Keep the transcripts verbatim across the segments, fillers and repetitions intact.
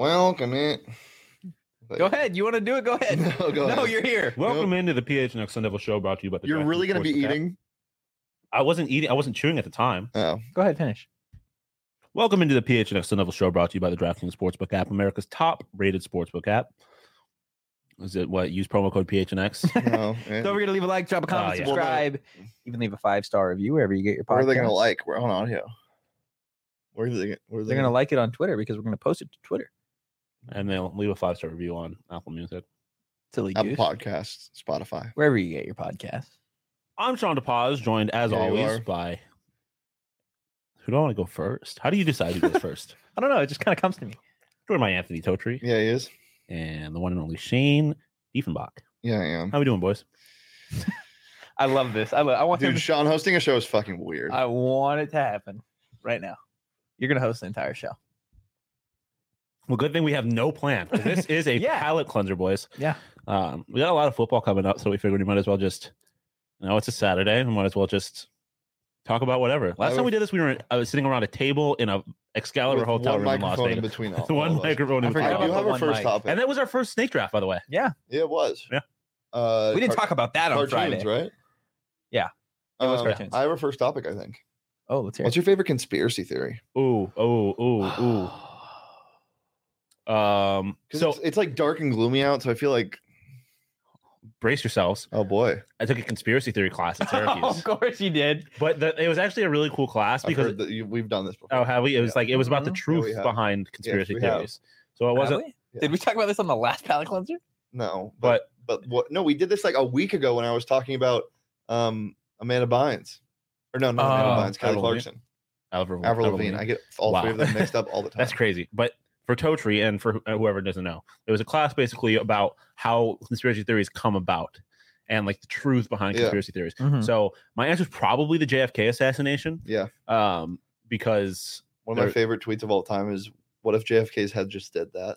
Welcome in. Go ahead. You want to do it? Go ahead. No, go no ahead. you're here. Welcome Nope. into the P H N X Sun Devil Show, brought to you by the. You're DraftKings really going to be Sportsbook app. eating? I wasn't eating. I wasn't chewing at the time. Oh. Go ahead. Finish. Welcome into the P H N X Sun Devil Show, brought to you by the DraftKings Sportsbook app, America's top-rated sportsbook app. Is it what? Use promo code P H N X. No. man. Don't forget to leave a like, drop a comment, Oh, yeah. subscribe, even leave a five star review wherever you get your podcast. What are they going to like? We're on audio. Where are they, where are they They're going to like it on Twitter because we're going to post it to Twitter. And they'll leave a five-star review on Apple Music. Silly Apple goose. Podcasts, Spotify. Wherever you get your podcast. I'm Sean DePaz, joined as Yeah, you always are. by. Who do I want to go first? How do you decide who goes first? I don't know. It just kind of comes to me. Joined by Anthony Totri Yeah, he is. and the one and only Shane Diefenbach. Yeah, I am. How we doing, boys? I love this. I, lo- I want him Dude, to- Sean hosting a show is fucking weird. I want it to happen right now. You're going to host the entire show. Well, good thing we have no plan. 'Cause This is a Yeah. palate cleanser, boys. Yeah. Um, we got a lot of football coming up, so we figured we might as well just, you know, it's a Saturday. We might as well just talk about whatever. Last I time would- we did this, we were I was sitting around a table in a Excalibur With hotel one room in Las microphone in Vegas. between all, one all of us. microphone I in forgot I between. about do the have a one first mic. topic. And that was our first snake draft, by the way. Yeah. Yeah, it was. Yeah. Uh, We didn't car- talk about that on cartoons, Friday. right? Yeah, it was Um, cartoons. I have a first topic, I think. Oh, let's hear What's it. your favorite conspiracy theory? Ooh, ooh, ooh, ooh. Um, Because so it's, it's like dark and gloomy out, so I feel like, brace yourselves. oh boy. I took a conspiracy theory class at Syracuse, of course you did. but the, it was actually a really cool class I've because heard that you, we've done this before. oh, have we? It was Yeah. like it was about the Mhm. Yeah, we truth have. behind conspiracy we have. theories. So it Have wasn't, we? Yeah. Did we talk about this on the last palate cleanser? No, but but but what? No, we did this like a week ago when I was talking about um Amanda Bynes, or no, not Amanda Oh, Bynes, Kelly Avril Clarkson, Avril, Avril Avril Lavigne. I get all Wow. three of them mixed up all the time. That's crazy. But for Totri and for wh- whoever doesn't know, it was a class basically about how conspiracy theories come about and like the truth behind Yeah. conspiracy theories. Mhm. So my answer is probably the J F K assassination, Yeah, um, because one of my There- favorite tweets of all time is, "What if J F K's head just did that?"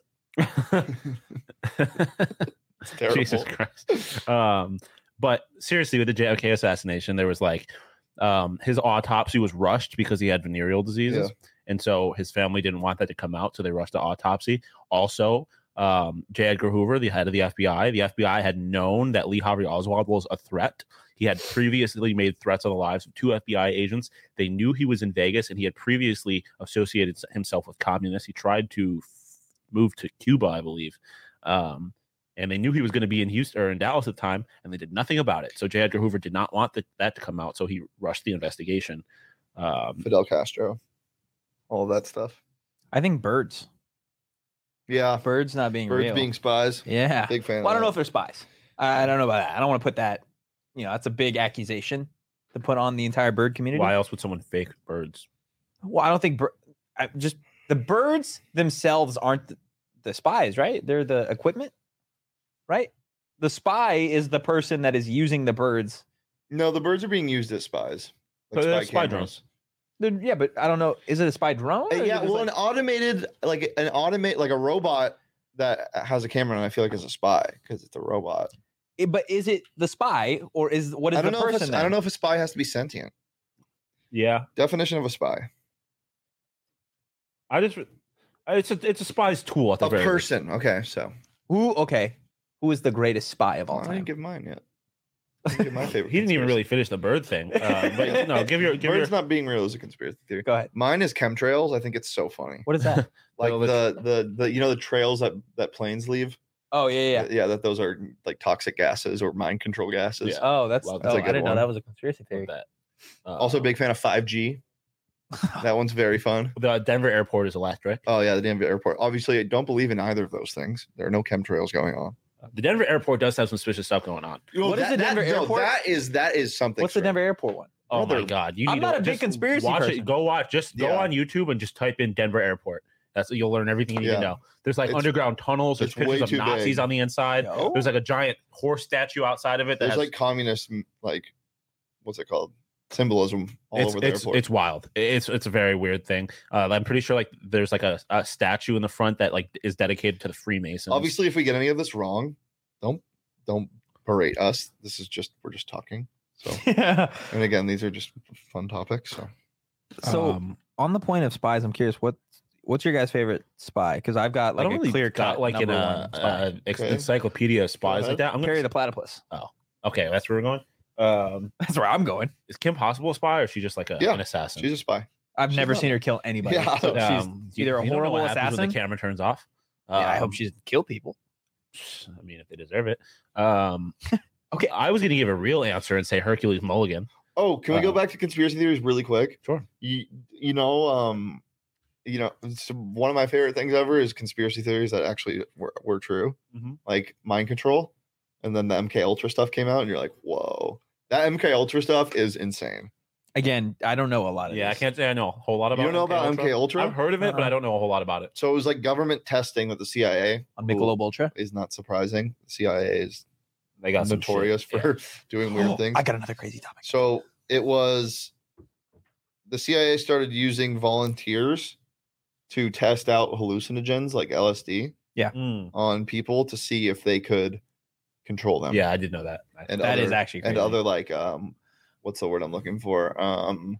It's terrible. Jesus Christ. Um, but seriously, with the J F K assassination, there was like um, his autopsy was rushed because he had venereal diseases, and so his family didn't want that to come out, so they rushed the autopsy. Also, um, J. Edgar Hoover, the head of the F B I, the F B I had known that Lee Harvey Oswald was a threat. He had previously made threats on the lives of two F B I agents. They knew he was in Vegas, and he had previously associated himself with communists. He tried to f- move to Cuba, I believe. Um, and they knew he was going to be in Houston or in Dallas at the time, and they did nothing about it. So J. Edgar Hoover did not want the, that to come out, so he rushed the investigation. Um, Fidel Castro, all of that stuff. I think birds. Yeah, Birds not being birds real. being spies. yeah. Big fan. Well, I don't of know that. if they're spies. I don't know about that. I don't want to put that. You know, that's a big accusation to put on the entire bird community. why else would someone fake birds? Well, I don't think bir- I just the birds themselves aren't the, the spies, right? They're the equipment, right? The spy is the person that is using the birds. No, the birds are being used as spies. But they're spy cameras. They're- yeah, but I don't know. Is it a spy drone? Uh, or is yeah, it just well, like- an automated, like an automate, like a robot that has a camera, and I feel like is a spy because it's a robot. it- but is it the spy or is what is I don't the know. If person? a, I don't then? know if a spy has to be sentient. Yeah, Definition of a spy: I just it's a it's a spy's tool at the a very least. person. Okay, so Who? Okay, who is the greatest spy of all I time? didn't give mine yet. I didn't give my favorite. He didn't even conspiracy. really finish the bird thing. Uh, but no, give your give Birds your not being real is a conspiracy theory. Go ahead. Mine is chemtrails. I think it's so funny. What is that? Like Well, the the the you know the trails that that planes leave. oh yeah, yeah. yeah, that those are like toxic gases or mind control gases. Yeah. Oh, that's. Well, oh, that's a I good didn't know one. that was a conspiracy of theory. that. Uh, Also, a big fan of five G. That one's very fun. the Denver airport is electric. Oh yeah, the Denver airport. Obviously, I don't believe in either of those things. There are no chemtrails going on. The Denver airport does have some suspicious stuff going on. What is the Denver no, airport? that is that is something. What's the strange. Denver airport one? Oh Brother, my god! You I'm need not to a big just conspiracy watch person. it. Go watch. Just go Yeah. on YouTube and just type in Denver airport. That's you'll learn everything you need Yeah. to know. There's like It's- underground tunnels. There's it's way pictures of too Nazis big. on the inside. No. There's like a giant horse statue outside of it. That There's has, like communist, m- like what's it called? Symbolism all it's over the it's, airport. it's wild. It's it's a very weird thing. Uh, I'm pretty sure like there's like a, a statue in the front that like is dedicated to the Freemasons. Obviously, if we get any of this wrong, don't don't berate us. This is just we're just talking. So, Yeah. and again, these are just fun topics. So, So Um, on the point of spies, I'm curious what What's your guys' favorite spy? Because I've got I like don't a really clear got cut like in number a, one spy. uh, ex- Okay. encyclopedia of spies ahead. like that. I'm Carry gonna, the platypus. okay, that's where we're going. Um, That's where I'm going. is Kim Possible a spy or is she just like a, Yeah, an assassin? She's a spy. I've She's never not- seen her kill anybody. Yeah. So she's Um, you- either a you don't know horrible what happens when assassin. the camera turns off. Yeah, I hope Um, she doesn't kill people. I mean, if they deserve it. Um, Okay. I was going to give a real answer and say Hercules Mulligan. Oh, can we go Uh, back to conspiracy theories really quick? Sure. You you know um you know it's one of my favorite things ever is conspiracy theories that actually were, were true, Mhm. like mind control, and then the M K Ultra stuff came out, and you're like, whoa, that M K Ultra stuff is insane. Again, I don't know a lot of Yeah, I this. can't say I know a whole lot about You don't know about M K Ultra? I've heard of it, but Uh-uh. I don't know a whole lot about it. So it was like government testing with the C I A. On who Michelob Ultra. is not surprising. The C I A is They got some notorious shit. for doing weird Oh, things. I got another crazy topic. So it was the C I A started using volunteers to test out hallucinogens like L S D Yeah. Mm. on people to see if they could control them. Yeah, I did know that. and That other, is actually and crazy. other like um, what's the word I'm looking for? Um,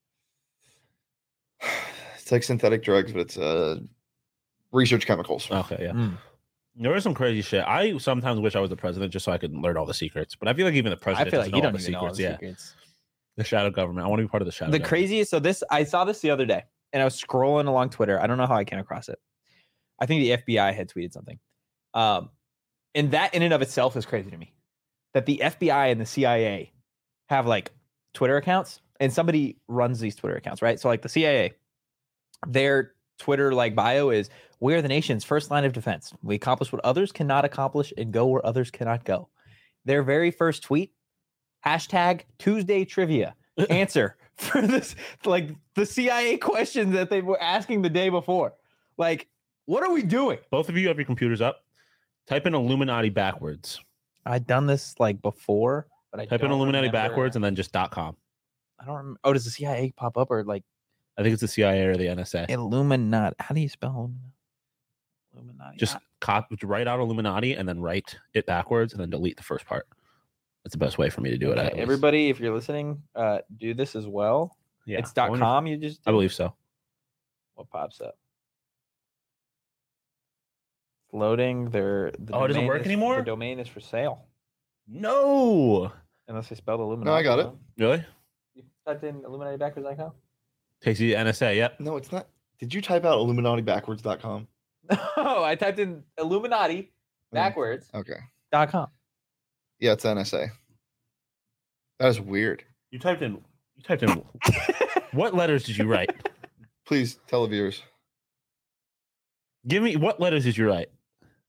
it's like synthetic drugs, but it's uh, research chemicals. Okay, yeah. Mm. There is some crazy shit. I sometimes wish I was the president just so I could learn all the secrets. But I feel like even the I president feel doesn't like you know all don't the even know all secrets. the yeah, secrets. the shadow government. I want to be part of the shadow. The government. craziest. So this, I saw this the other day, and I was scrolling along Twitter. I don't know how I came across it. I think the F B I had tweeted something, um, and that in and of itself is crazy to me. That the F B I and the C I A have like Twitter accounts, and somebody runs these Twitter accounts, right? So like the C I A, their Twitter like bio is, "We are the nation's first line of defense. We accomplish what others cannot accomplish and go where others cannot go." Their very first tweet, hashtag Tuesday trivia answer for this, like the C I A questions that they were asking the day before. Like, what are we doing? Both of you have your computers up. Type in Illuminati backwards. I'd done this like before, but I Type in don't Illuminati remember- backwards and then just .com. I don't remember. Oh, does the C I A pop up or like I think it's the C I A or the N S A. Illuminati? How do you spell Illuminati? Illuminati. Just cop, write out Illuminati and then write it backwards and then delete the first part. That's the best way for me to do it. Okay, at least. everybody, if you're listening, uh, do this as well. yeah, It's I dot wonder- com. You just I did? believe so. What pops up? It's loading. Their the Oh, it doesn't domain work is- anymore? The domain is for sale. No, Unless I spelled Illuminati. No, I got it. wrong. really? You typed in Illuminati backwards dot com? Takes you to N S A. Yep. No, it's not. Did you type out Illuminati backwards dot com? No, I typed in Illuminati backwards Okay. dot com. Yeah, it's N S A. That is weird. You typed in. You typed in. What letters did you write? Please tell the viewers. Give me what letters did you write?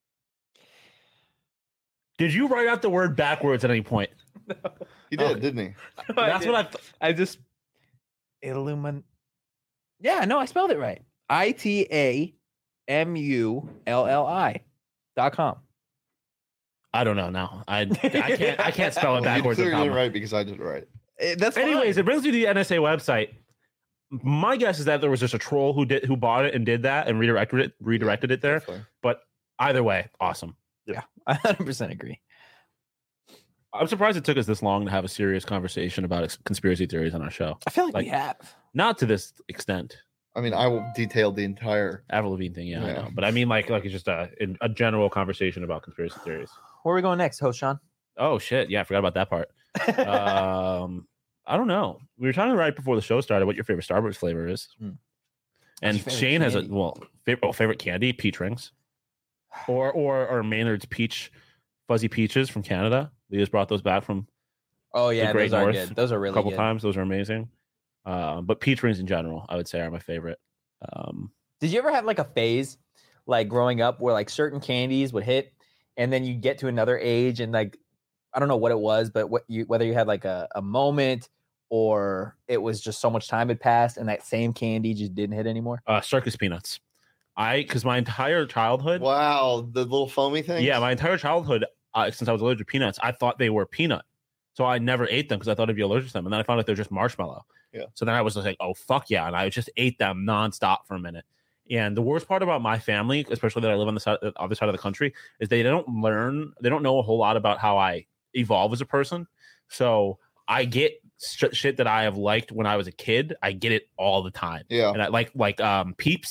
Did you write out the word backwards at any point? He did, Okay. didn't he? That's what I. Th- I just Illumin. Yeah, no, I spelled it right. I T A M U L L I dot com. I don't know now. I I can't I can't spell it Well, you backwards. or clearly did comma. right because I did it right. Eh, That's Anyways, fine. it brings me to the N S A website. My guess is that there was just a troll who did who bought it and did that and redirected it redirected it there. Definitely. But either way, awesome. I one hundred percent agree. I'm surprised it took us this long to have a serious conversation about ex- conspiracy theories on our show. I feel like, Like- we have. Not to this extent. I mean, I will detail the entire. Avril Lavigne thing, yeah, I Yeah. know. But I mean, like, like it's just a in- a general conversation about conspiracy theories. Where are we going next, host Sean? Oh shit, yeah, I forgot about that part. um, I don't know. We were talking right before the show started what your favorite Starbucks flavor is, Hmm. and What's your favorite Shane has a candy? well favorite, oh, favorite candy, peach rings, or or or Maynard's peach fuzzy peaches from Canada. We just brought those back from Oh yeah, Great those are North good. Those are a really couple good. times. Those are amazing. Um, but peach rings in general, I would say, are my favorite. Um, Did you ever have like a phase, like growing up, where like certain candies would hit, and then you get to another age, and like I don't know what it was, but what you whether you had like a, a moment or it was just so much time had passed, and that same candy just didn't hit anymore. uh, circus peanuts. I because my entire childhood, Wow, the little foamy thing. yeah, my entire childhood, uh, since I was allergic to peanuts, I thought they were peanut. So I never ate them because I thought I'd be allergic to them. And then I found out they're just marshmallow. Yeah. So then I was just like, oh, fuck yeah. And I just ate them nonstop for a minute. And the worst part about my family, especially that I live on the side, the other side of the country, is they don't learn, they don't know a whole lot about how I evolve as a person. So I get sh- shit that I have liked when I was a kid. I get it all the time. Yeah. And I like, like um, Peeps,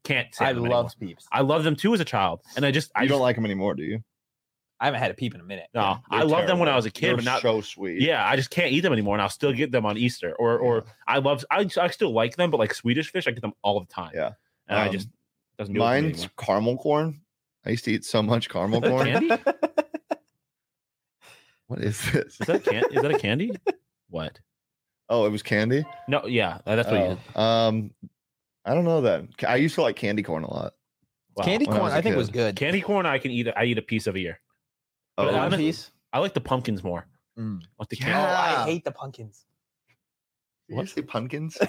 can't say I them love anymore. Peeps. I love them too as a child, and I just I You don't just, like them anymore, do you? I haven't had a peep in a minute. no. Yeah, I they're love them when I terrible. was a kid, They're but not so sweet. Yeah, I just can't eat them anymore, and I'll still get them on Easter. Or, or Yeah. I love, I, I still like them, but like Swedish fish, I get them all the time. Yeah. and I Um, just doesn't do it for me Mine's anymore. caramel corn. I used to eat so much caramel corn. Candy? What is this? Is that can? Is that a candy? What? Oh, it was candy. No, yeah, that's what you. Oh, um, I don't know that. I used to like candy corn a lot. Wow. Candy when I corn, was I, a think was kid. good. Candy corn, I can eat. I eat a piece of a year. But Oh, I One don't- piece. I like the pumpkins more. Mm. Like the Oh, candy. Yeah. I hate the pumpkins. did you say pumpkins?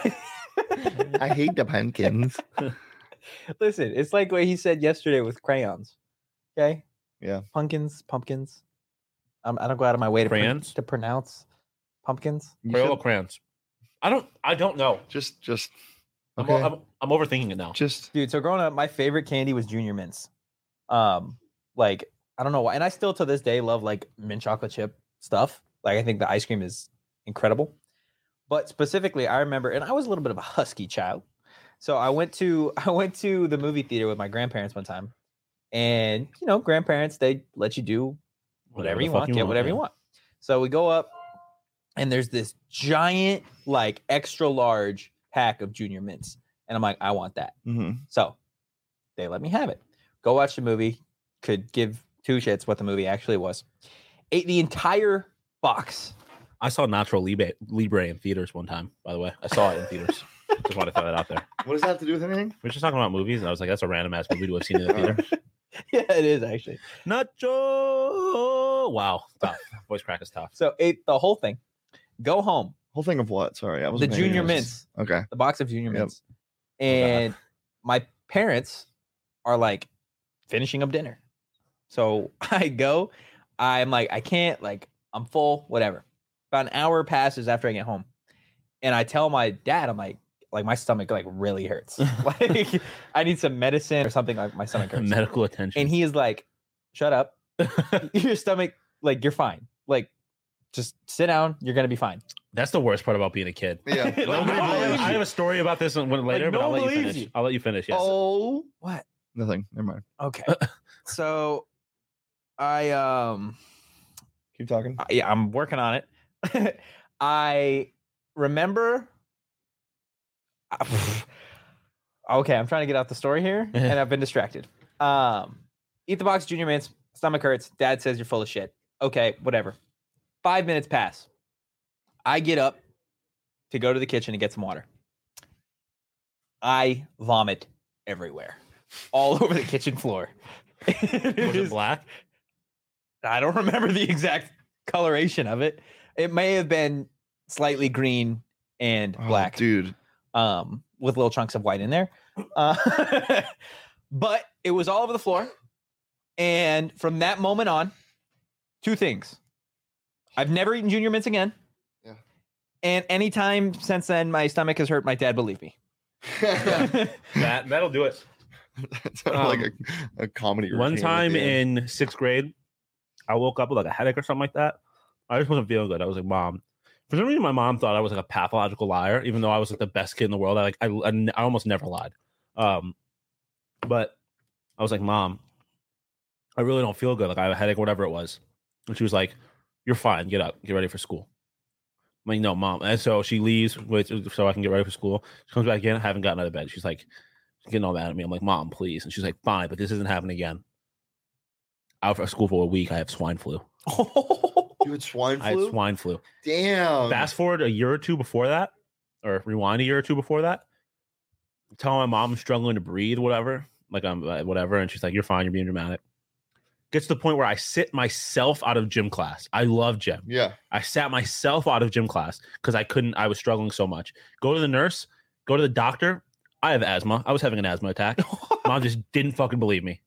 I hate the pumpkins. Listen, it's like what he said yesterday with crayons. Okay. Yeah. Pumpkins, pumpkins. Um, I don't go out of my way to, pr- Crayons? to pronounce pumpkins. You Crayola should- crayons. I don't. I don't know. Just, just. I'm, Okay. I'm, I'm overthinking it now. just. Dude, so growing up, my favorite candy was Junior Mints. Um, like I don't know why, and I still to this day love like mint chocolate chip stuff. Like I think the ice cream is incredible. But specifically, I remember, and I was a little bit of a husky child, so I went to I went to the movie theater with my grandparents one time, and you know, grandparents they let you do whatever the you fuck want, get whatever yeah. you want. So we go up, and there's this giant, like extra large pack of Junior Mints, and I'm like, I want that. Mhm. So they let me have it. Go watch the movie. Could give two shits what the movie actually was. Ate the entire box. I saw Natural Libre, Libre in theaters one time. By the way, I saw it in theaters. Just want to throw that out there. What does that have to do with anything? We were just talking about movies, and I was like, "That's a random ass movie to have seen in the theater." Yeah, it is actually. Nacho. Wow, tough. Voice crack is tough. So ate the whole thing. Go home. Whole thing of what? Sorry, I was The Junior Mints. Okay. The box of Junior Yep. Mints. And my parents are like finishing up dinner. So I go. I'm like, I can't, like, I'm full, whatever. About an hour passes after I get home. And I tell my dad, I'm like, like my stomach like really hurts. Like I need some medicine or something, like my stomach hurts. Medical attention. And he is like, shut up. Your stomach, like, you're fine. Like, just sit down. You're gonna be fine. That's the worst part about being a kid. Yeah. Like, I'll- no I'll- one believes I you. have a story about this one later, but no I'll one let you believes finish. you. I'll let you finish. Yes. Oh, what? Nothing. Never mind. Okay. So I um Keep talking. I- yeah, I'm working on it. I remember okay, I'm trying to get out the story here and I've been distracted. Um eat the box of Junior Mints, stomach hurts, dad says you're full of shit. Okay, whatever. Five minutes pass. I get up to go to the kitchen and get some water. I vomit everywhere. All over the kitchen floor. It Was is- it black? I don't remember the exact coloration of it. It may have been slightly green and Oh, black, dude. um, with little chunks of white in there. Uh, but it was all over the floor. And from that moment on, two things. I've never eaten Junior Mints again. Yeah. And anytime since then, my stomach has hurt. My dad believed me. That That that'll do it. sounded like a, a comedy. One routine at time the end. in sixth grade, I woke up with like a headache or something like that. I just wasn't feeling good. I was like, "Mom." For some reason, my mom thought I was like a pathological liar, even though I was like the best kid in the world. I like I, I, n- I almost never lied. Um, but I was like, "Mom, I really don't feel good. Like I have a headache, whatever it was." And she was like, "You're fine. Get up. Get ready for school." I'm like, "No, Mom." And so she leaves with, so I can get ready for school. She comes back in. I haven't gotten out of bed. She's like, getting all mad at me. I'm like, "Mom, please." And she's like, "Fine, but this isn't happening again." Out for school for a week. I have swine flu. You had swine I had flu. swine flu. Damn. Fast forward a year or two before that, or rewind a year or two before that. Telling my mom I'm struggling to breathe, whatever. Like I'm uh, whatever, and she's like, "You're fine. You're being dramatic." Gets to the point where I sit myself out of gym class. I love gym. Yeah. I sat myself out of gym class because I couldn't. I was struggling so much. Go to the nurse. Go to the doctor. I have asthma. I was having an asthma attack. Mom just didn't fucking believe me.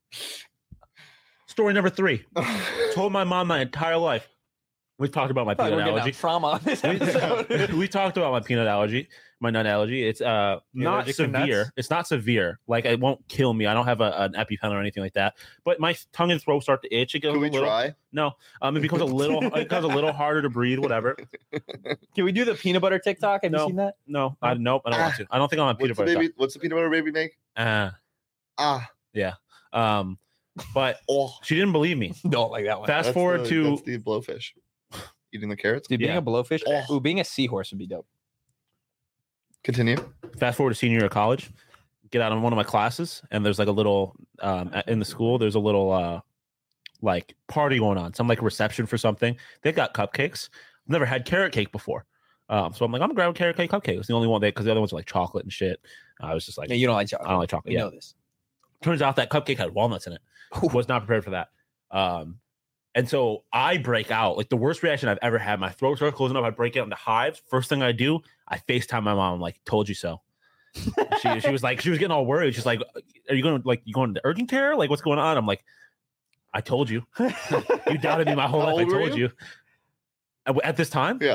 Story number three. Told my mom my entire life. We talked about my Probably peanut we're getting allergy. out trauma on this We, episode. we talked about my peanut allergy, my nut allergy. It's uh You not allergic to severe. nuts? It's not severe. Like it won't kill me. I don't have a, an EpiPen or anything like that. But my tongue and throat start to itch. It goes Can we a little, try? No, um, it becomes a little. It becomes a little harder to breathe. Whatever. Can we do the peanut butter TikTok? Have No. you seen that? No, I nope. I don't want to. I don't think I'll have peanut What's the butter. baby? What's the peanut butter baby make? Uh, ah. Yeah. Um, but Oh, she didn't believe me. Don't like that one. Fast that's forward the, to that's the blowfish eating the carrots. Dude, being yeah. a blowfish, Oh. ooh, being a seahorse would be dope. Continue. fast forward to senior year of college. Get out of one of my classes, and there's like a little um in the school. There's a little uh like party going on, some like reception for something. They got cupcakes. I've never had carrot cake before. Um, so I'm like, I'm gonna grab a carrot cake cupcake. It's the only one they because the other ones are like chocolate and shit. I was just like, Yeah, you don't like chocolate. I don't like chocolate. You Yeah. know this. Turns out that cupcake had walnuts in it. Was not prepared for that. Um, and so I break out like the worst reaction I've ever had. My throat starts closing up. I break out into hives. First thing I do, I FaceTime my mom. I'm like, told you so. she she was like, she was getting all worried. She's like, are you going to like you going to urgent care? Like, what's going on? I'm like, I told you. You doubted me my whole How life. I old were told you. you? At, at this time, Yeah.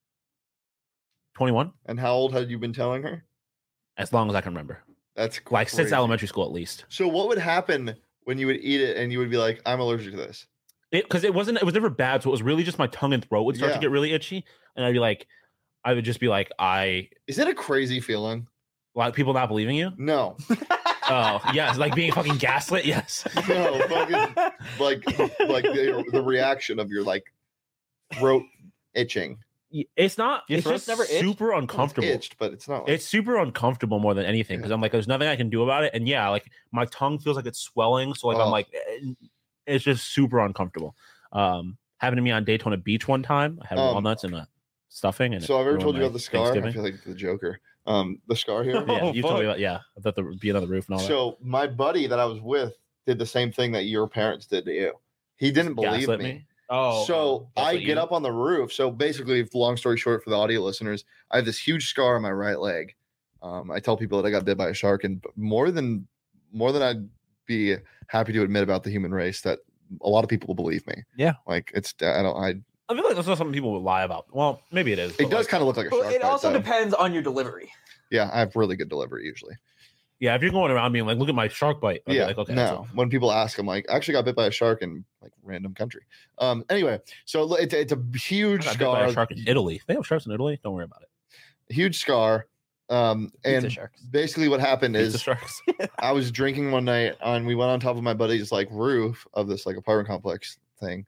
twenty-one, And how old had you been telling her? as long as I can remember, That's like since crazy. elementary school at least. So what would happen when you would eat it and you would be like, I'm allergic to this? It because it wasn't it was never bad, so it was really just my tongue and throat would start Yeah. to get really itchy, and I'd be like, I would just be like, I Is it a crazy feeling? like people not believing you. No. Oh yes, like being fucking gaslit. Yes. No, fucking like like the, the reaction of your like throat itching. It's not. Your It's throat's just never itched? super It's uncomfortable. itched, but it's not. Like, It's super uncomfortable more than anything because I'm like, there's nothing I can do about it. And yeah, like my tongue feels like it's swelling. So like I'm Oh. like, eh, it's just super uncomfortable. Um, happened to me on Daytona Beach one time. I had Um, walnuts and a stuffing. And so it I've ever ruined told you my about the scar. I Thanksgiving. feel like the Joker. Um, the scar here. Yeah, Oh, you told me fuck. about. Yeah, I thought there would be another roof and all that. So my buddy that I was with did the same thing that your parents did to you. He didn't believe Gaslit me. Oh, So that's I what get you- up on the roof. So basically, long story short, for the audio listeners, I have this huge scar on my right leg. Um, I tell people that I got bit by a shark, and more than more than I'd be happy to admit about the human race, that a lot of people will believe me. Yeah. like it's I don't I. I feel like that's not something people would lie about. Well, maybe it is. It but, does like, kind of look like a Well, shark. it bite, also though. depends on your delivery. Yeah, I have really good delivery usually. Yeah, if you're going around being like, look at my shark bite. I'd be Yeah, like, okay, that's no. When people ask, I'm like, I actually got bit by a shark in like random country. Um, anyway, so it's it's a I huge got bit by scar, a shark in Italy. They have sharks in Italy. Don't worry about it. huge scar. Um, Pizza and sharks. basically what happened Pizza is sharks. I was drinking one night and we went on top of my buddy's like roof of this like apartment complex thing,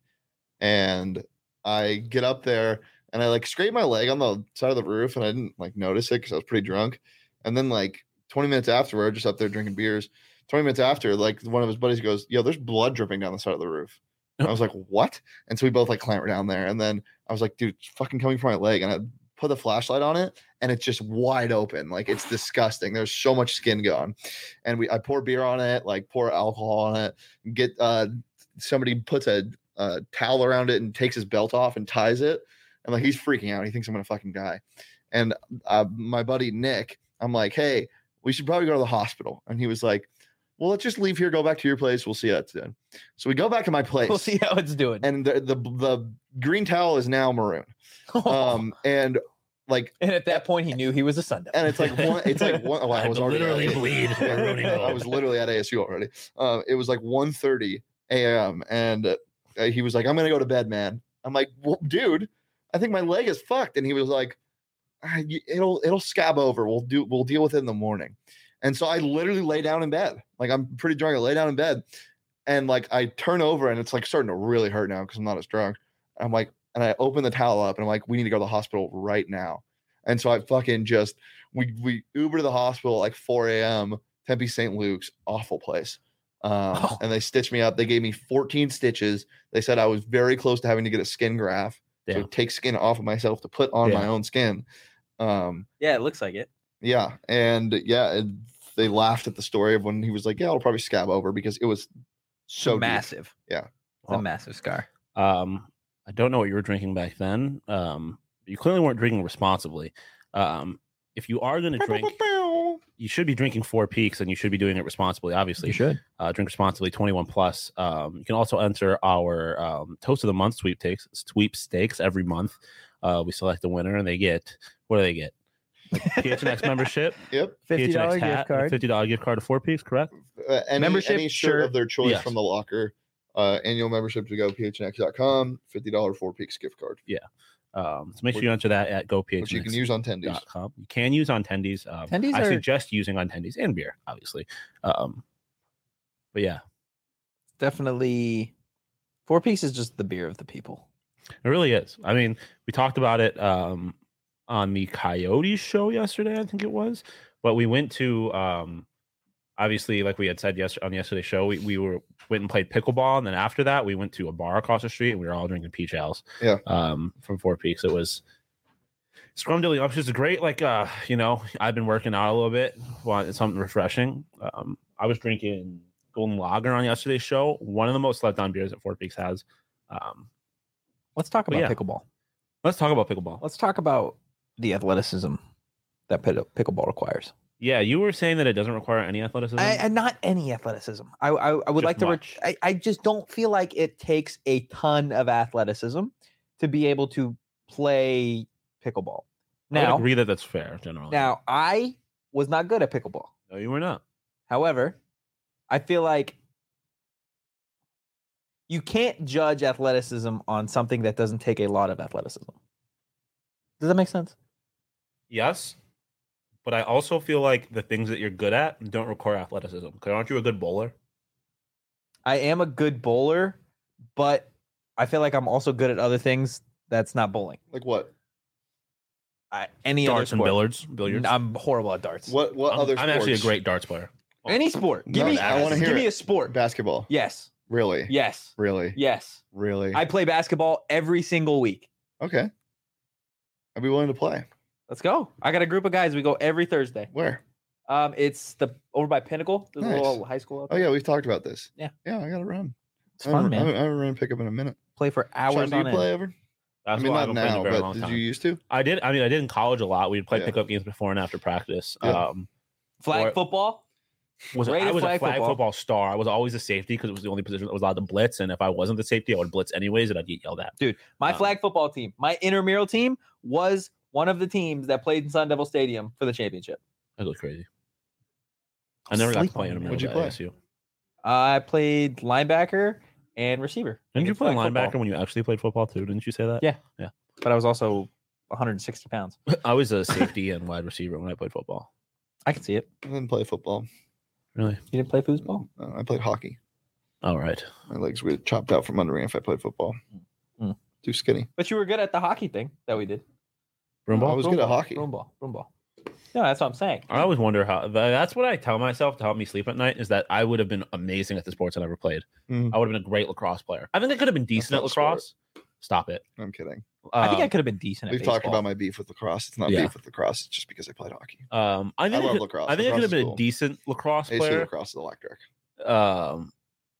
and I get up there and I like scrape my leg on the side of the roof and I didn't like notice it because I was pretty drunk. And then like twenty minutes afterward, just up there drinking beers. twenty minutes after, like one of his buddies goes, "Yo, there's blood dripping down the side of the roof." And I was like, "What?" And so we both like clamber down there. And then I was like, "Dude, it's fucking coming from my leg." And I put the flashlight on it, and it's just wide open. Like it's disgusting. There's so much skin gone. And we I pour beer on it, like pour alcohol on it, get uh somebody puts a, a towel around it and takes his belt off and ties it. And like he's freaking out. He thinks I'm gonna fucking die. And uh, my buddy Nick, I'm like, "Hey, we should probably go to the hospital." And he was like, "Well, let's just leave here, go back to your place. We'll see how it's doing." So we go back to my place. We'll see how it's doing. And the, the the green towel is now maroon. Um, and like, and at that point, he knew he was a sundown. and it's like one, it's like one. Oh, I I was had to already literally at- bleed. Yeah, Maroon and I gold. was literally at A S U already. Um, it was like one thirty a.m. and uh, he was like, "I'm gonna go to bed, man." I'm like, "Well, dude, I think my leg is fucked." And he was like, "Ah, y- "It'll it'll scab over. We'll do we'll deal with it in the morning." And so I literally lay down in bed. Like I'm pretty drunk. I lay down in bed, and like I turn over, and it's like starting to really hurt now because I'm not as drunk. I'm like, and I open the towel up, and I'm like, "We need to go to the hospital right now." And so I fucking just we we Uber to the hospital at like four a.m. Tempe Saint Luke's, awful place. Um, Oh. And they stitched me up. They gave me fourteen stitches. They said I was very close to having to get a skin graft. So Yeah. take skin off of myself to put on Yeah. my own skin. Um, yeah, it looks like it. yeah, and yeah, it, they laughed at the story of when he was like, "Yeah, it'll probably scab over," because it was so deep. massive. Yeah. It's a massive scar. Um, I don't know what you were drinking back then. Um, you clearly weren't drinking responsibly. Um, if you are going to drink, you should be drinking Four Peaks, and you should be doing it responsibly. Obviously, You should. uh, drink responsibly, twenty-one plus. Um, you can also enter our um, Toast of the Month sweepstakes sweepstakes every month. Uh, we select the winner, and they get what do they get? Like P H N X membership, Yep. Fifty dollar P H N X hat, gift card. fifty dollar gift card to Four Peaks, correct? Uh, any, Membership, any shirt, shirt. of their choice Yes. from the locker. Uh, annual membership to go P H N X dot com, fifty dollars Four Peaks gift card, Um, so make sure you enter that at go P H N X. which you can use on tendies. dot com. You can use on tendies. Um, Tendies I are- suggest using on tendies and beer, obviously. Um, but yeah, Definitely, Four Peaks is just the beer of the people. it really is. I mean, we talked about it um, on the Coyotes show yesterday, I think it was. But we went to, um, obviously, like we had said yesterday on yesterday's show, we, we were went and played pickleball, and then after that, we went to a bar across the street, and we were all drinking peach ales. Yeah. Um, from Four Peaks, it was scrumdiddly. It's great. Like, uh, you know, I've been working out a little bit. Want something refreshing. Um, I was drinking Golden Lager on yesterday's show. One of the most slept on beers that Four Peaks has. Um, Let's talk about yeah. pickleball. let's talk about pickleball. Let's talk about the athleticism that pickleball requires. Yeah, you were saying that it doesn't require any athleticism. I, and not any athleticism. I I, I would Just like to. much. Re- I, I just don't feel like it takes a ton of athleticism to be able to play pickleball. I would Now, agree that that's fair generally. now I was not good at pickleball. no, you were not. However, I feel like you can't judge athleticism on something that doesn't take a lot of athleticism. Does that make sense? Yes, but I also feel like the things that you're good at don't require athleticism. Because aren't you a good bowler? I am a good bowler, but I feel like I'm also good at other things that's not bowling. Like what? I, any Darts other and sport. billiards. Billiards. I'm horrible at darts. What what I'm, other I'm sports? actually a great darts player. Any sport. Give No, me. I wanna hear give me it. a sport. Basketball. Yes. Really? Yes. Really? Yes. Really? I play basketball every single week. Okay. I'd be willing to play. Let's go. I got a group of guys. We go every Thursday. Where? Um, it's the over by Pinnacle. There's Nice. a little high school. Out Oh there. yeah, we've talked about this. Yeah. Yeah, I got to run. It's I fun, haven't- I man. haven't, I haven't ran pickup in a minute. Play for hours Sean, do on you end. play ever? That's I mean, why I not haven't played in now, a very but long did time. you used to? I did. I mean, I did in college a lot. We'd play Yeah. pickup games before and after practice. Yeah. Um, Flag Or- football. was Rated I was flag a flag football. football. star. I was always a safety because it was the only position that was allowed to blitz. And if I wasn't the safety, I would blitz anyways, and I'd get yelled at. Dude, my Um, flag football team, my intramural team was one of the teams that played in Sun Devil Stadium for the championship. That was crazy. I never got to Sleep play on in me. a What'd you play? S U. I played linebacker and receiver. Didn't you against play flag linebacker football, when you actually played football too? Didn't you say that? Yeah. But I was also one hundred sixty pounds. I was a safety and wide receiver when I played football. I can see it. I didn't play football. Really? You didn't play foosball? Uh, I played hockey. All right. My legs would get chopped out from under me if I played football. Mm. Too skinny. But you were good at the hockey thing that we did. Broom I ball? was good at hockey. Broom ball. Broom ball. No, that's what I'm saying. I always wonder how. That's what I tell myself to help me sleep at night is that I would have been amazing at the sports I never played. Mm. I would have been a great lacrosse player. I think I could have been decent not at a sport. lacrosse. Stop it. I'm kidding. I think I Um, could have been decent at We've talked baseball. about my beef with lacrosse. It's not Yeah. beef with lacrosse. It's just because I played hockey. Um, I I think I, love could, lacrosse. I think I could Lacrosse have been is a cool. decent lacrosse I used to do player. lacrosse is electric. Um,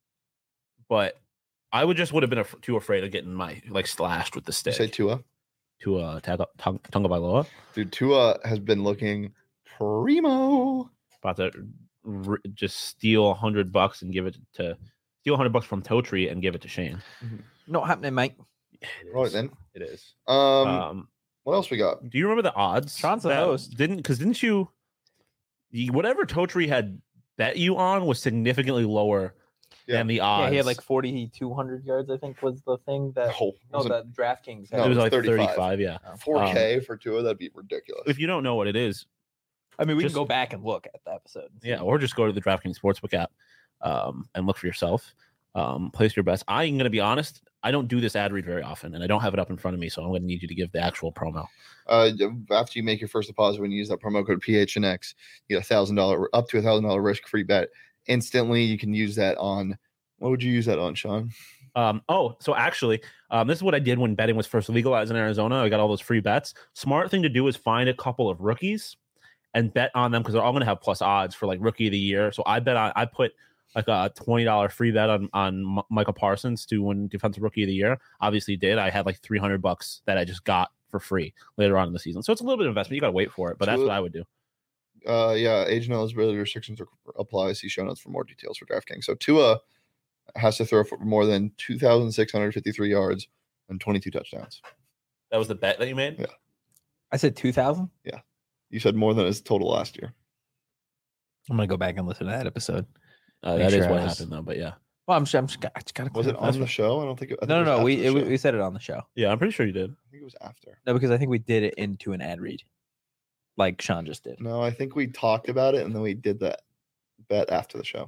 but I would just would have been af- too afraid of getting my like slashed with the You stick say Tua? to uh Taga- Tung- Tunga Bailoa. Dude, Tua has been looking primo. About to r- just steal a hundred bucks and give it to steal a hundred bucks from Totri and give it to Shane. Not happening, mate. It Right is. then. It is. Um, Um, what else we got? do you remember the odds? Sean's the that- host. Didn't because didn't you? you- Whatever Totri had bet you on was significantly lower Yeah. than the odds. Yeah, he had like forty-two hundred yards, I think was the thing that. No, No, wasn't that DraftKings No, it was it's like thirty-five. thirty-five. Yeah. four K for Tua. That'd be ridiculous. If you don't know what it is, I mean, we Just- can go back and look at the episode. and see. yeah, or just go to the DraftKings Sportsbook app um, and look for yourself. Um, place your bets. I'm going to be honest. I don't do this ad read very often, and I don't have it up in front of me, so I'm going to need you to give the actual promo. Uh, after you make your first deposit, when you use that promo code P H N X, you get a thousand dollar up to a thousand dollar risk free bet instantly. You can use that on. What would you use that on, Sean? Um, oh, so actually, um, this is what I did when betting was first legalized in Arizona. I got all those free bets. Smart thing to do is find a couple of rookies and bet on them because they're all going to have plus odds for like rookie of the year. So I bet on, I put like a twenty dollars free bet on, on M- Michael Parsons to win defensive rookie of the year. Obviously did. I had like three hundred bucks that I just got for free later on in the season. So it's a little bit of investment. You got to wait for it, but that's So- what I would do. Uh, yeah, age and eligibility restrictions are, apply. See show notes for more details for DraftKings. So Tua has to throw for more than two thousand six hundred fifty-three yards and twenty-two touchdowns. That was the bet that you made? Yeah. I said two thousand. You said more than his total last year. I'm gonna go back and listen to that episode. Uh, Make that is sure I what was- happened though, but yeah. Well, I'm, I'm just, I just gotta. Was it clarify. on the show? I don't think. It, I think No, it no, was no. We after the it, show. we said it on the show. Yeah, I'm pretty sure you did. I think it was after. No, because I think we did it into an ad read, like Sean just did. No, I think we talked about it and then we did that bet after the show.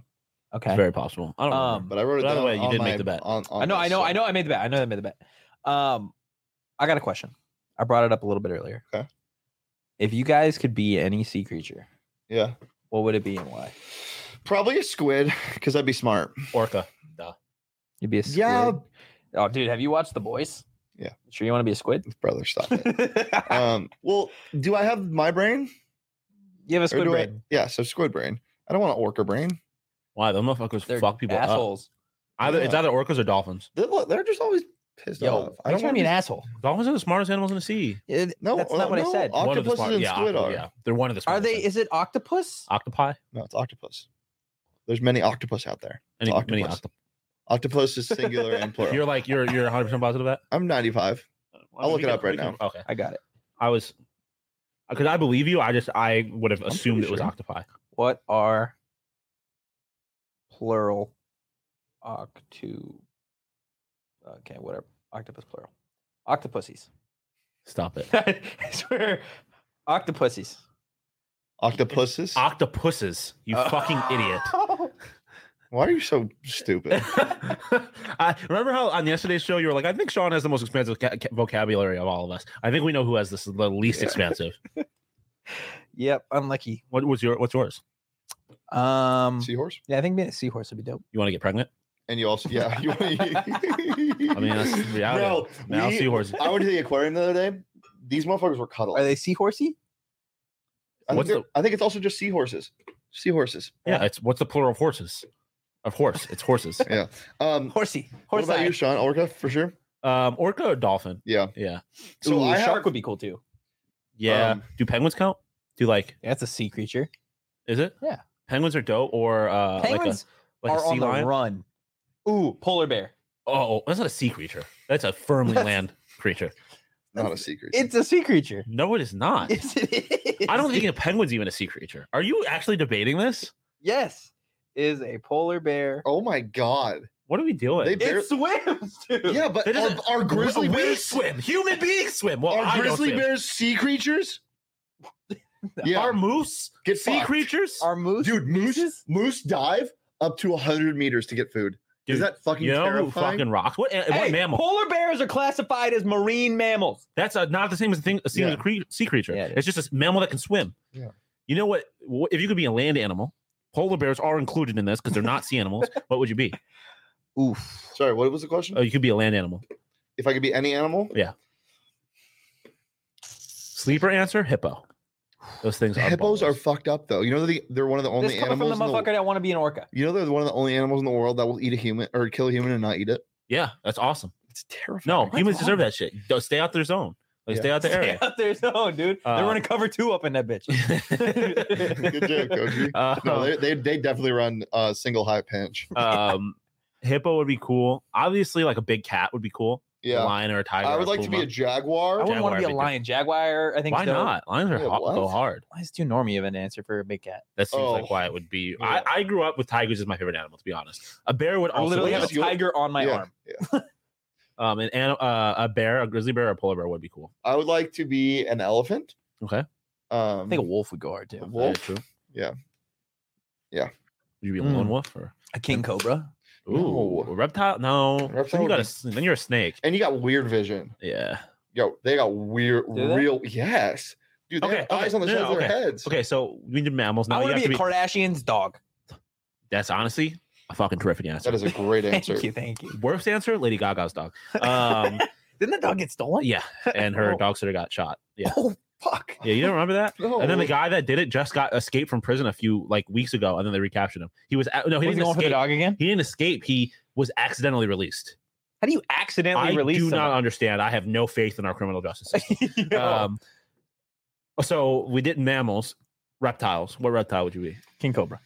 Okay. It's very possible. I don't know. Um, But I wrote it By the down. way, you on did make my- the bet. On, on I know, this, I know, so- I know. I made the bet. I know I made the bet. Um, I got a question. I brought it up a little bit earlier. Okay. If you guys could be any sea creature, Yeah, what would it be and why? probably a squid because I'd be smart. Orca. You'd be a squid. Yeah, Oh, dude, have you watched The Boys? Yeah. Sure, you want to be a squid? brother, stop it. um, well, do I have my brain? You have a Or squid do I- brain. yeah, so squid brain. I don't want an orca brain. Why? Those motherfuckers They're fuck people up. assholes. Either It's Yeah. either orcas or dolphins. They're, they're just always pissed Yo, off. I don't want to be an wanna asshole. Dolphins are the smartest animals in the sea. It- No, that's uh, not what I no, said. oct- One of the Octopuses smart- and yeah, squid octo- are. Yeah, they're one of the Are smartest. they? things. Is it octopus? Octopi? No, it's octopus. There's many octopus out there. Any, It's many octopus. octop- Octopus is singular and plural. You're like you're you're one hundred percent positive of that. I'm ninety-five. I'll look it up right now. Okay, I got it. I was because I believe you. I just I would have I'm assumed pretty it was sure. octopi. What are plural octu? Okay, whatever. Octopus plural. Octopussies. Stop it. I swear, octopussies. Octopuses? Octopuses. You Uh, fucking idiot. Why are you so stupid? I remember how on yesterday's show you were like, I think Sean has the most expansive ca- ca- vocabulary of all of us. I think we know who has this the least Yeah. expansive. Yep, unlucky. What was your what's yours? Um, Seahorse? yeah, I think being a seahorse would be dope. You want to get pregnant? And you also, yeah. You, I mean, that's the reality. Bro, Now we- seahorses. I went to the aquarium the other day. These motherfuckers were cuddling. Are they seahorsey? I think, What's they're- the- I think it's also just seahorses. Seahorses. Yeah, it's what's the plural of horses? Of horse. It's horses. Yeah. Um, Horsey. what Horse about you, Sean? Orca for sure. Um, orca or dolphin? Yeah. Yeah. So Ooh, I shark have- would be cool too. Yeah. Um, Do penguins count? Do like Yeah, that's a sea creature. is it? Yeah. Penguins are dope or uh Penguins like a, like are a sea on the lion? run. Ooh, polar bear. Oh, that's not a sea creature. That's a firmly That's- land creature. Not a secret. It's a sea creature. No, it is not. Yes, it is. I don't think a penguin's even a sea creature. Are you actually debating this? Yes, is a polar bear. Oh my god. What are we doing? They- It swims, dude. Yeah, but That are, isn't- are grizzly we bears swim. Human beings swim. Well, I are don't grizzly swim. bears sea creatures? Yeah. Are moose Get sea fucked. creatures? Are moose? Dude, moose mooses? moose dive up to one hundred meters to get food. Dude, Is that fucking you know who terrifying? fucking rocks? What, what Hey, mammal? polar bears are classified as marine mammals. That's a, not the same as a thing. A sea, Yeah. cre- sea creature. Yeah, it it's just a mammal that can swim. Yeah. You know what? what? If you could be a land animal, polar bears are included in this because they're not sea animals. What would you be? Oof. Sorry, what was the question? Oh, you could be a land animal. If I could be any animal? Sleeper answer: hippo. Those things are Hippos are balls. fucked up though. You know the, they're one of the only This coming from animals the in the, motherfucker that want to be an orca. You know they're one of the only animals in the world that will eat a human or kill a human and not eat it. Yeah, that's awesome. It's terrifying. No, What's humans wrong? deserve that shit. Don't stay out their zone. Like Yeah. stay out the Stay area. out there, no, dude. Uh, They're running cover two up in that bitch. Good joke, Koji. Uh, No, they, they they definitely run a single high pinch. um, hippo would be cool. Obviously, like a big cat would be cool. A Yeah, lion or a tiger. I or would like to be a puma. I jaguar. wouldn't want to be a Jaguar would be lion. Jaguar, I think. Why so. not? Lions are Yeah, hot, go what? hard. Lion's too normy of an answer for a big cat. That seems Oh. like why it would be. Yeah. I, I grew up with tigers as my favorite animal, to be honest. A bear would I also literally be have a dope. You'll- tiger on my yeah, arm. yeah. um an, an uh, a bear, a grizzly bear, or a polar bear would be cool. I would like to be an elephant. Okay, Um, I think a wolf would go hard too. a wolf. Very true. Yeah. Yeah. Would you be a Mm. lone wolf or A king cobra. ooh No. a reptile? No, Reptile then you would got be- a s- then you're a snake. And you got weird vision. Yeah. Yo, they got weird, Do they? real. Yes, dude. They Okay, have okay, eyes on the no, sides no, of their okay. heads. Okay, so we did mammals. Now I you want have to be to a be. Kardashian's dog. That's honestly a fucking terrific answer. That is a great answer. Thank you, thank you. Worst answer: Lady Gaga's dog. Um, Didn't the dog get stolen? yeah, and her Oh. dog sitter got shot. Yeah, Oh fuck. yeah. You don't remember that? No. And then the guy that did it just got escaped from prison a few like weeks ago, and then they recaptured him. He was a- no, he Was he didn't going for the escape. dog again? He didn't escape. He was accidentally released. How do you accidentally I release do not someone? understand. I have no faith in our criminal justice system. Yo. um, so we did mammals, reptiles. What reptile would you be? King cobra.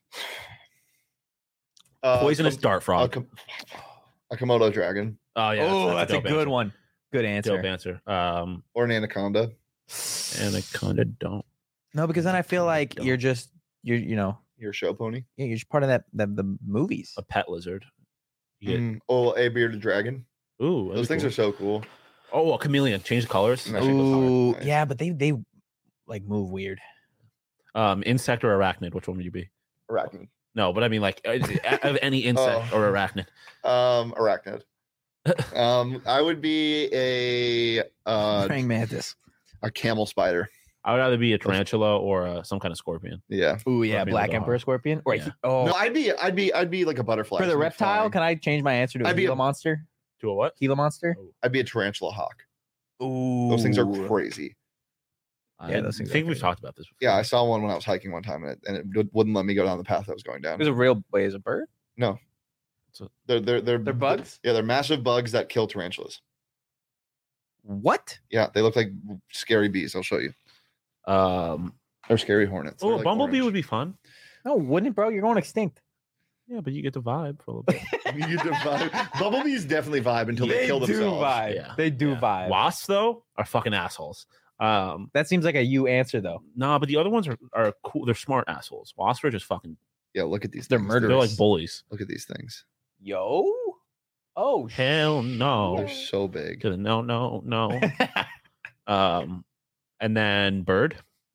Uh, Poisonous com- dart a, frog. com- a Komodo dragon Oh yeah, oh, that's, a, dope good answer. one. Good answer. Dope answer. Um, or an anaconda. anaconda don't. No, because then I feel like Don't. you're just you're you know Your show pony. yeah, you're just part of that the, the movies. A pet lizard. You get- Mm, oh, a bearded dragon. Ooh, that'd Those be things cool. are so cool. Oh, a chameleon. Change the colors. That shit goes Ooh, hard. yeah, but they they like move weird. Um, insect or arachnid? Which one would you be? Arachnid. No, but I mean like uh, of any insect Oh. or arachnid. Um, arachnid. um, I would be a uh, Praying mantis. a camel spider. I would either be a tarantula or uh, some kind of scorpion. Yeah. Ooh, yeah, Scorpions black are emperor hard. scorpion. Or Yeah. oh, No, I'd be, I'd be, I'd be like a butterfly. for the Something reptile, flying. can I change my answer to a I'd be Gila a- monster? To a what? Gila monster. I'd be a tarantula hawk. Ooh, Those things are crazy. Yeah, I those things are think we've crazy. taled about this before. Yeah, I saw one when I was hiking one time, and it, and it would- wouldn't let me go down the path I was going down. It was a real. Wait, is it a bird? They're they're they're They're bugs. Yeah, they're massive bugs that kill tarantulas. What? Yeah, they look like scary bees. I'll show you. Um, Or scary hornets. oh, They're a like bumblebee orange. would be fun. No, wouldn't it, bro? You're going extinct. Yeah, but you get the vibe for a little bit. You get to vibe. Bumblebees definitely vibe until they, kill do themselves. vibe. Yeah. They do Yeah. vibe. Wasps though are fucking assholes. Um, That seems like a you answer though. nah, but the other ones are, are cool. They're smart assholes. Wasps are just fucking. Yeah, look at these. They're things. murderous. They're like bullies. Look at these things. Yo. Oh. Hell no. They're so big. To the no, no, no. um, and then bird.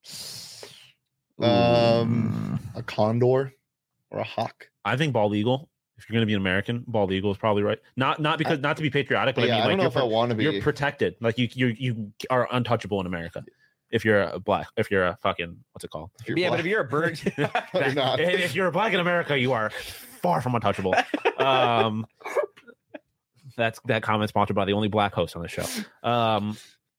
Um, a condor or a hawk. I think bald eagle. If you're gonna be an American, bald eagle is probably right. Not not because not to be patriotic, but yeah, I I mean don't know like if I you're, want to pro- be. you're protected. Like you you you are untouchable in America. If you're a black, if you're a fucking what's it called? if you're Yeah, but black. if you're a bird, You're not. If if you're a black in America, you are far from untouchable. Um, that's that comment sponsored by the only black host on the show. Um,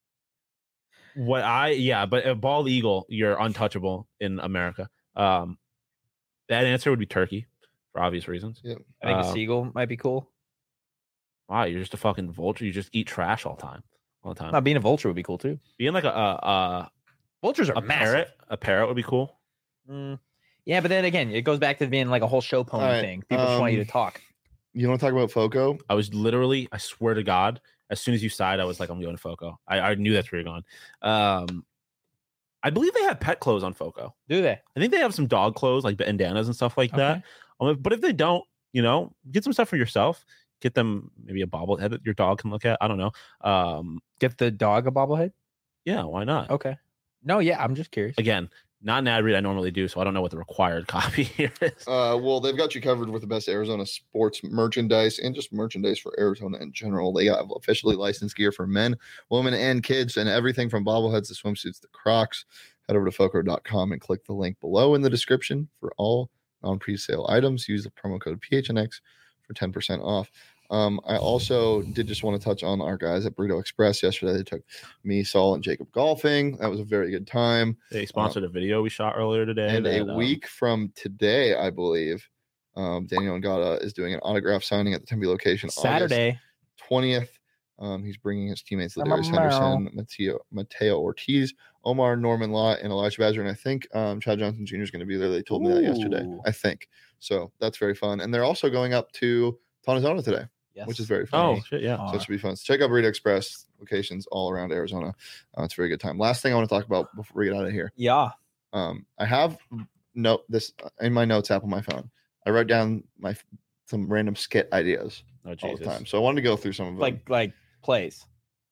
what I yeah, but a bald eagle, you're untouchable in America. Um, that answer would be turkey for obvious reasons. I think a Um, seagull might be cool. Wow, you're just a fucking vulture. You just eat trash all the time, all the time. Not being a vulture would be cool too. Being like a a, a, Vultures are a massive. parrot, a parrot would be cool. Mm, yeah, but then again, it goes back to being like a whole show pony All right, thing. People just want you um, to talk. You want to talk about Foco? I was literally, I swear to God, as soon as you sighed, I was like, I'm going to Foco. I, I knew that's where you're going. Um, I believe they have pet clothes on Foco. Do they? I think they have some dog clothes, like bandanas and stuff like that. Okay. Um, but if they don't, you know, get some stuff for yourself. Get them maybe a bobblehead that your dog can look at. I don't know. Um, Get the dog a bobblehead? yeah, why not? Okay. No, yeah, I'm just curious. Again, not an ad read I normally do, so I don't know what the required copy here is. Uh, well, they've got you covered with the best Arizona sports merchandise and just merchandise for Arizona in general. They have officially licensed gear for men, women, and kids, and everything from bobbleheads to swimsuits to Crocs. Head over to foco dot com and click the link below in the description for all non-presale items. Use the promo code P H N X for ten percent off. Um, I also did just want to touch on our guys at Burrito Express yesterday. They took me, Saul, and Jacob golfing. That was a very good time. They sponsored a video we shot earlier today. And that, a um, week from today, I believe, um, Daniel Ngata is doing an autograph signing at the Tempe location. Saturday. twentieth. Um, he's bringing his teammates I'm a Ladarius Henderson, Mateo, Mateo Ortiz, Omar Norman Law, and Elijah Badger. And I think um, Chad Johnson Junior is going to be there. They told me that yesterday. Ooh. I think. So that's very fun. And they're also going up to Tonazona today, Yes. which is very fun. Oh, shit, yeah. So it should be fun. So check out Burrito Express locations all around Arizona. Uh, it's a very good time. Last thing I want to talk about before we get out of here. Yeah. Um, I have note this in my notes app on my phone. I wrote down my some random skit ideas Oh, all Jesus. the time. So I wanted to go through some of them. Like like plays.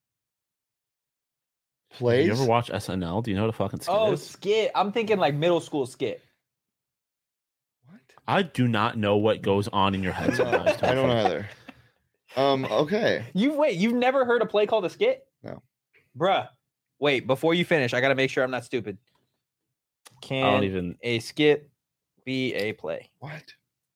plays. You ever watch S N L? Do you know what a fucking skit Oh, is? skit. I'm thinking like middle school skit. What? I do not know what goes on in your head sometimes. I don't know either. Um. Okay. You wait, you've never heard a play called a skit? No. Bruh. Wait, before you finish, I gotta make sure I'm not stupid. I Can don't even. a skit be a play? What?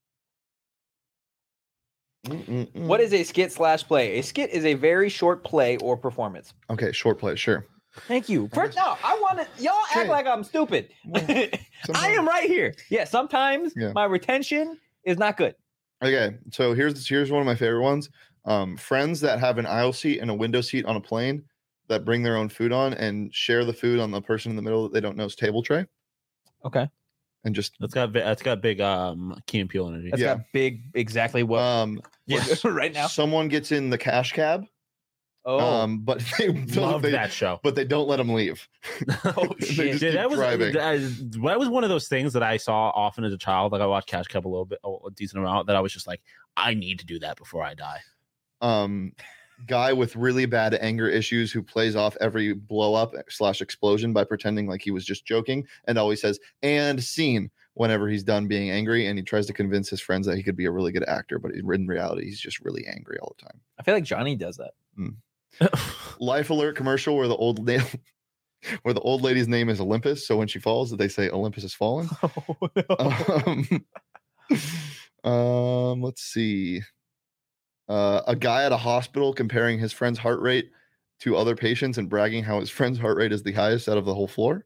Mm-mm-mm. What is a skit slash play? A skit is a very short play or performance. Okay, short play. Sure. Thank you. First, no, I want to. Y'all act Okay. like I'm stupid. Well, I sometimes- am right here. Yeah, sometimes Yeah. my retention is not good. Okay, so here's here's one of my favorite ones. Um, friends that have an aisle seat and a window seat on a plane that bring their own food on and share the food on the person in the middle that they don't know's table tray, Okay. and just That's got bi- that's got big um Key and Peele energy. That's Yeah. got big, exactly what um, yes. right now. someone gets in the cash cab, Oh, um, but they Love they, that show. but they don't let them leave. Oh, They shit. just Dude, keep that was driving. that, that was one of those things that I saw often as a child. Like I watched Cash Cab a little bit, a decent amount. That I was just like, I need to do that before I die. um guy with really bad anger issues who plays off every blow up slash explosion by pretending like he was just joking and always says and scene whenever he's done being angry, and he tries to convince his friends that he could be a really good actor, but in reality, he's just really angry all the time. I feel like Johnny does that. Mm. Life Alert commercial where the old na- where the old lady's name is Olympus, so when she falls, they say Olympus has fallen. Oh, no. um, um, let's see. Uh, a guy at a hospital comparing his friend's heart rate to other patients and bragging how his friend's heart rate is the highest out of the whole floor.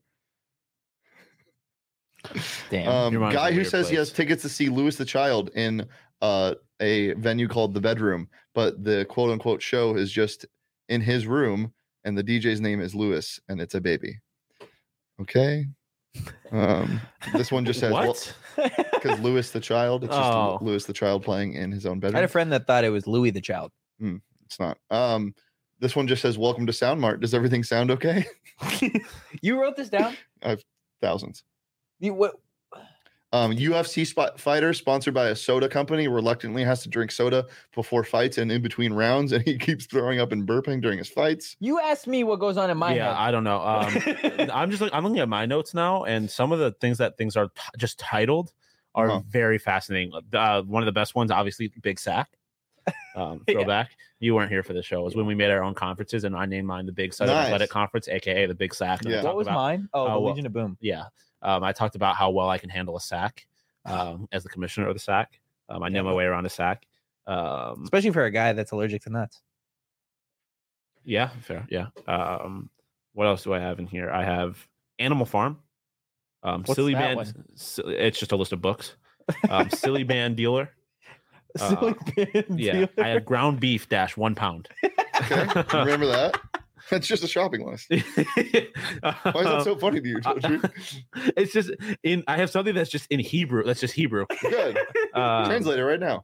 Damn. Um, Your mind's in guy a who weird says he place. has tickets to see Louis the Child in uh, a venue called The Bedroom, but the quote unquote show is just in his room, and the D J's name is Louis, and it's a baby. Okay. Um, this one just says what? because Louis the Child. It's just Oh. Louis the Child playing in his own I bedroom. had a friend that thought it was Louis the Child. It's not. Um, this one just says "Welcome to Sound Mart." Does everything sound okay? You wrote this down? Thousands. You what? Um, U F C spot fighter sponsored by a soda company reluctantly has to drink soda before fights and in between rounds, and he keeps throwing up and burping during his fights. You asked me what goes on in my yeah, head. I don't know. Um, I'm just like I'm looking at my notes now, and some of the things that things are t- just titled are Uh-huh. very fascinating. Uh, one of the best ones, obviously, Big Sack. Um, Yeah. throwback. You weren't here for the show. It was when we made our own conferences, and I named mine the Big Southern Nice. Athletic Conference, aka the Big Sack. and I Yeah. What talked was about- mine? Oh, the Oh, well, Legion of Boom. Yeah, um, I talked about how well I can handle a sack um, as the commissioner of the sack. Um, I know my way around a sack. Um, Especially for a guy that's allergic to nuts. Yeah, fair. Yeah. Um, what else do I have in here? I have Animal Farm. Um, What's Silly that Band. one? Si- It's just a list of books. Um, Silly Band Dealer. Silly bin Yeah. dealer. I have ground beef dash one pound. Okay, remember that? That's just a shopping list. Why is that so funny to you, Totri? It's just in. I have something that's just in Hebrew. That's just Hebrew. Good. Um, Translate it right now.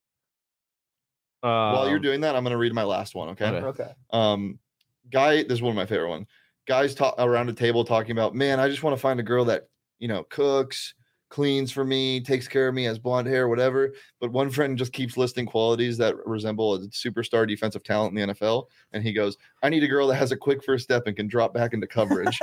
While you're um, doing that, I'm going to read my last one. Okay. Okay. Okay. Um, guy, this is one of my favorite ones. Guys talk around a table talking about, man, I just want to find a girl that, you know, cooks, cleans for me, takes care of me, has blonde hair, whatever. But one friend just keeps listing qualities that resemble a superstar defensive talent in the N F L. And he goes, I need a girl that has a quick first step and can drop back into coverage.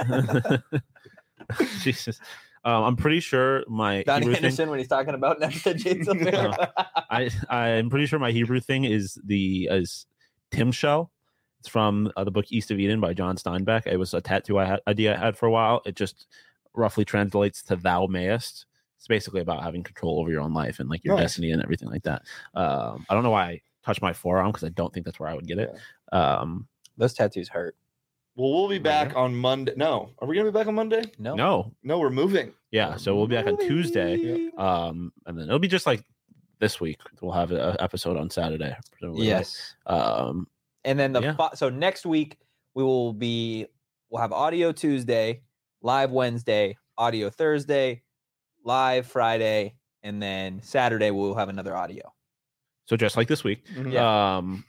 Jesus. Um, I'm pretty sure my Donnie Hebrew thing, Henderson when he's talking about next to Jason Bear. I I'm pretty sure my Hebrew thing is the is Tim Show. It's from uh, the book East of Eden by John Steinbeck. It was a tattoo I had, idea I had for a while. It just roughly translates to "Thou mayest." It's basically about having control over your own life and like your Nice. destiny and everything like that. Um, I don't know why I touched my forearm because I don't think that's where I would get it. Um, Those tattoos hurt. Well, we'll be back on Monday. No, are we going to be back on Monday? No. no, No, we're moving. yeah. So we'll be back on Tuesday. Yeah. Um, and then it'll be just like this week. We'll have an episode on Saturday. presumably, right? Yes. Um, And then the Yeah. fo- so next week we will be we'll have audio Tuesday, live Wednesday, audio Thursday, live Friday, and then Saturday we'll have another audio. so just like this week. Mhm. Yeah. Um,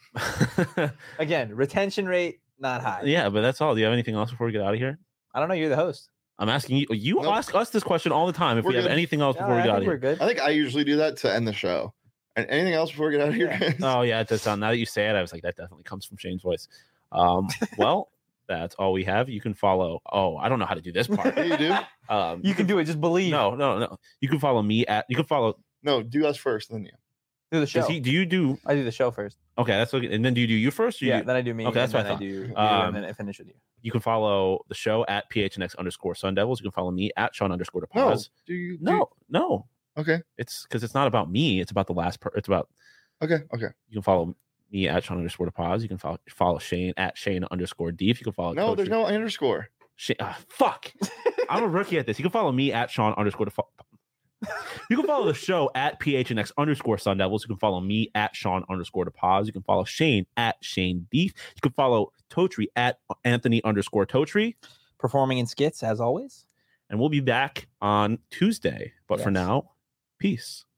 Again, retention rate not high. yeah, but that's all. Do you have anything else before we get out of here? I don't know. You're the host. I'm asking you. You Nope. ask us this question all the time. If We're we have good. anything else Yeah, before we I get out think of we're here. good. I think I usually do that to end the show. And anything else before we get out of here? Yeah. guys? Oh yeah, it does sound. Now that you say it, I was like, that definitely comes from Shane's voice. Um, well, that's all we have. You can follow. Oh, I don't know how to do this part. Yeah, you do? Um, You can do it. Just believe. No, no, no. You can follow me at. You can follow. No, do us first, then you. do the show. Does he, do you do? I do the show first. Okay, that's okay. And then do you do you first? Or Yeah. You, Then I do me. Okay, that's and what I then I do you, Um, and then I finish with you. you can follow the show at P H N X underscore Sun Devils. You can follow me at Sean underscore No. Pause. Do you? do No, no. you- Okay. It's because it's not about me. It's about the last. Per, it's about. Okay. Okay. You can follow me at Sean underscore Pause. You can follow follow Shane at Shane underscore Deep. You can follow. No, Coach there's no underscore. Shane, ah, fuck. I'm a rookie at this. You can follow me at Sean underscore. Defa- You can follow the show at P H N X underscore Sun Devils. You can follow me at Sean underscore Pause. You can follow Shane at Shane Beef. You can follow Totri at Anthony underscore Totri. Performing in skits as always. And we'll be back on Tuesday. But for Yes. now, peace.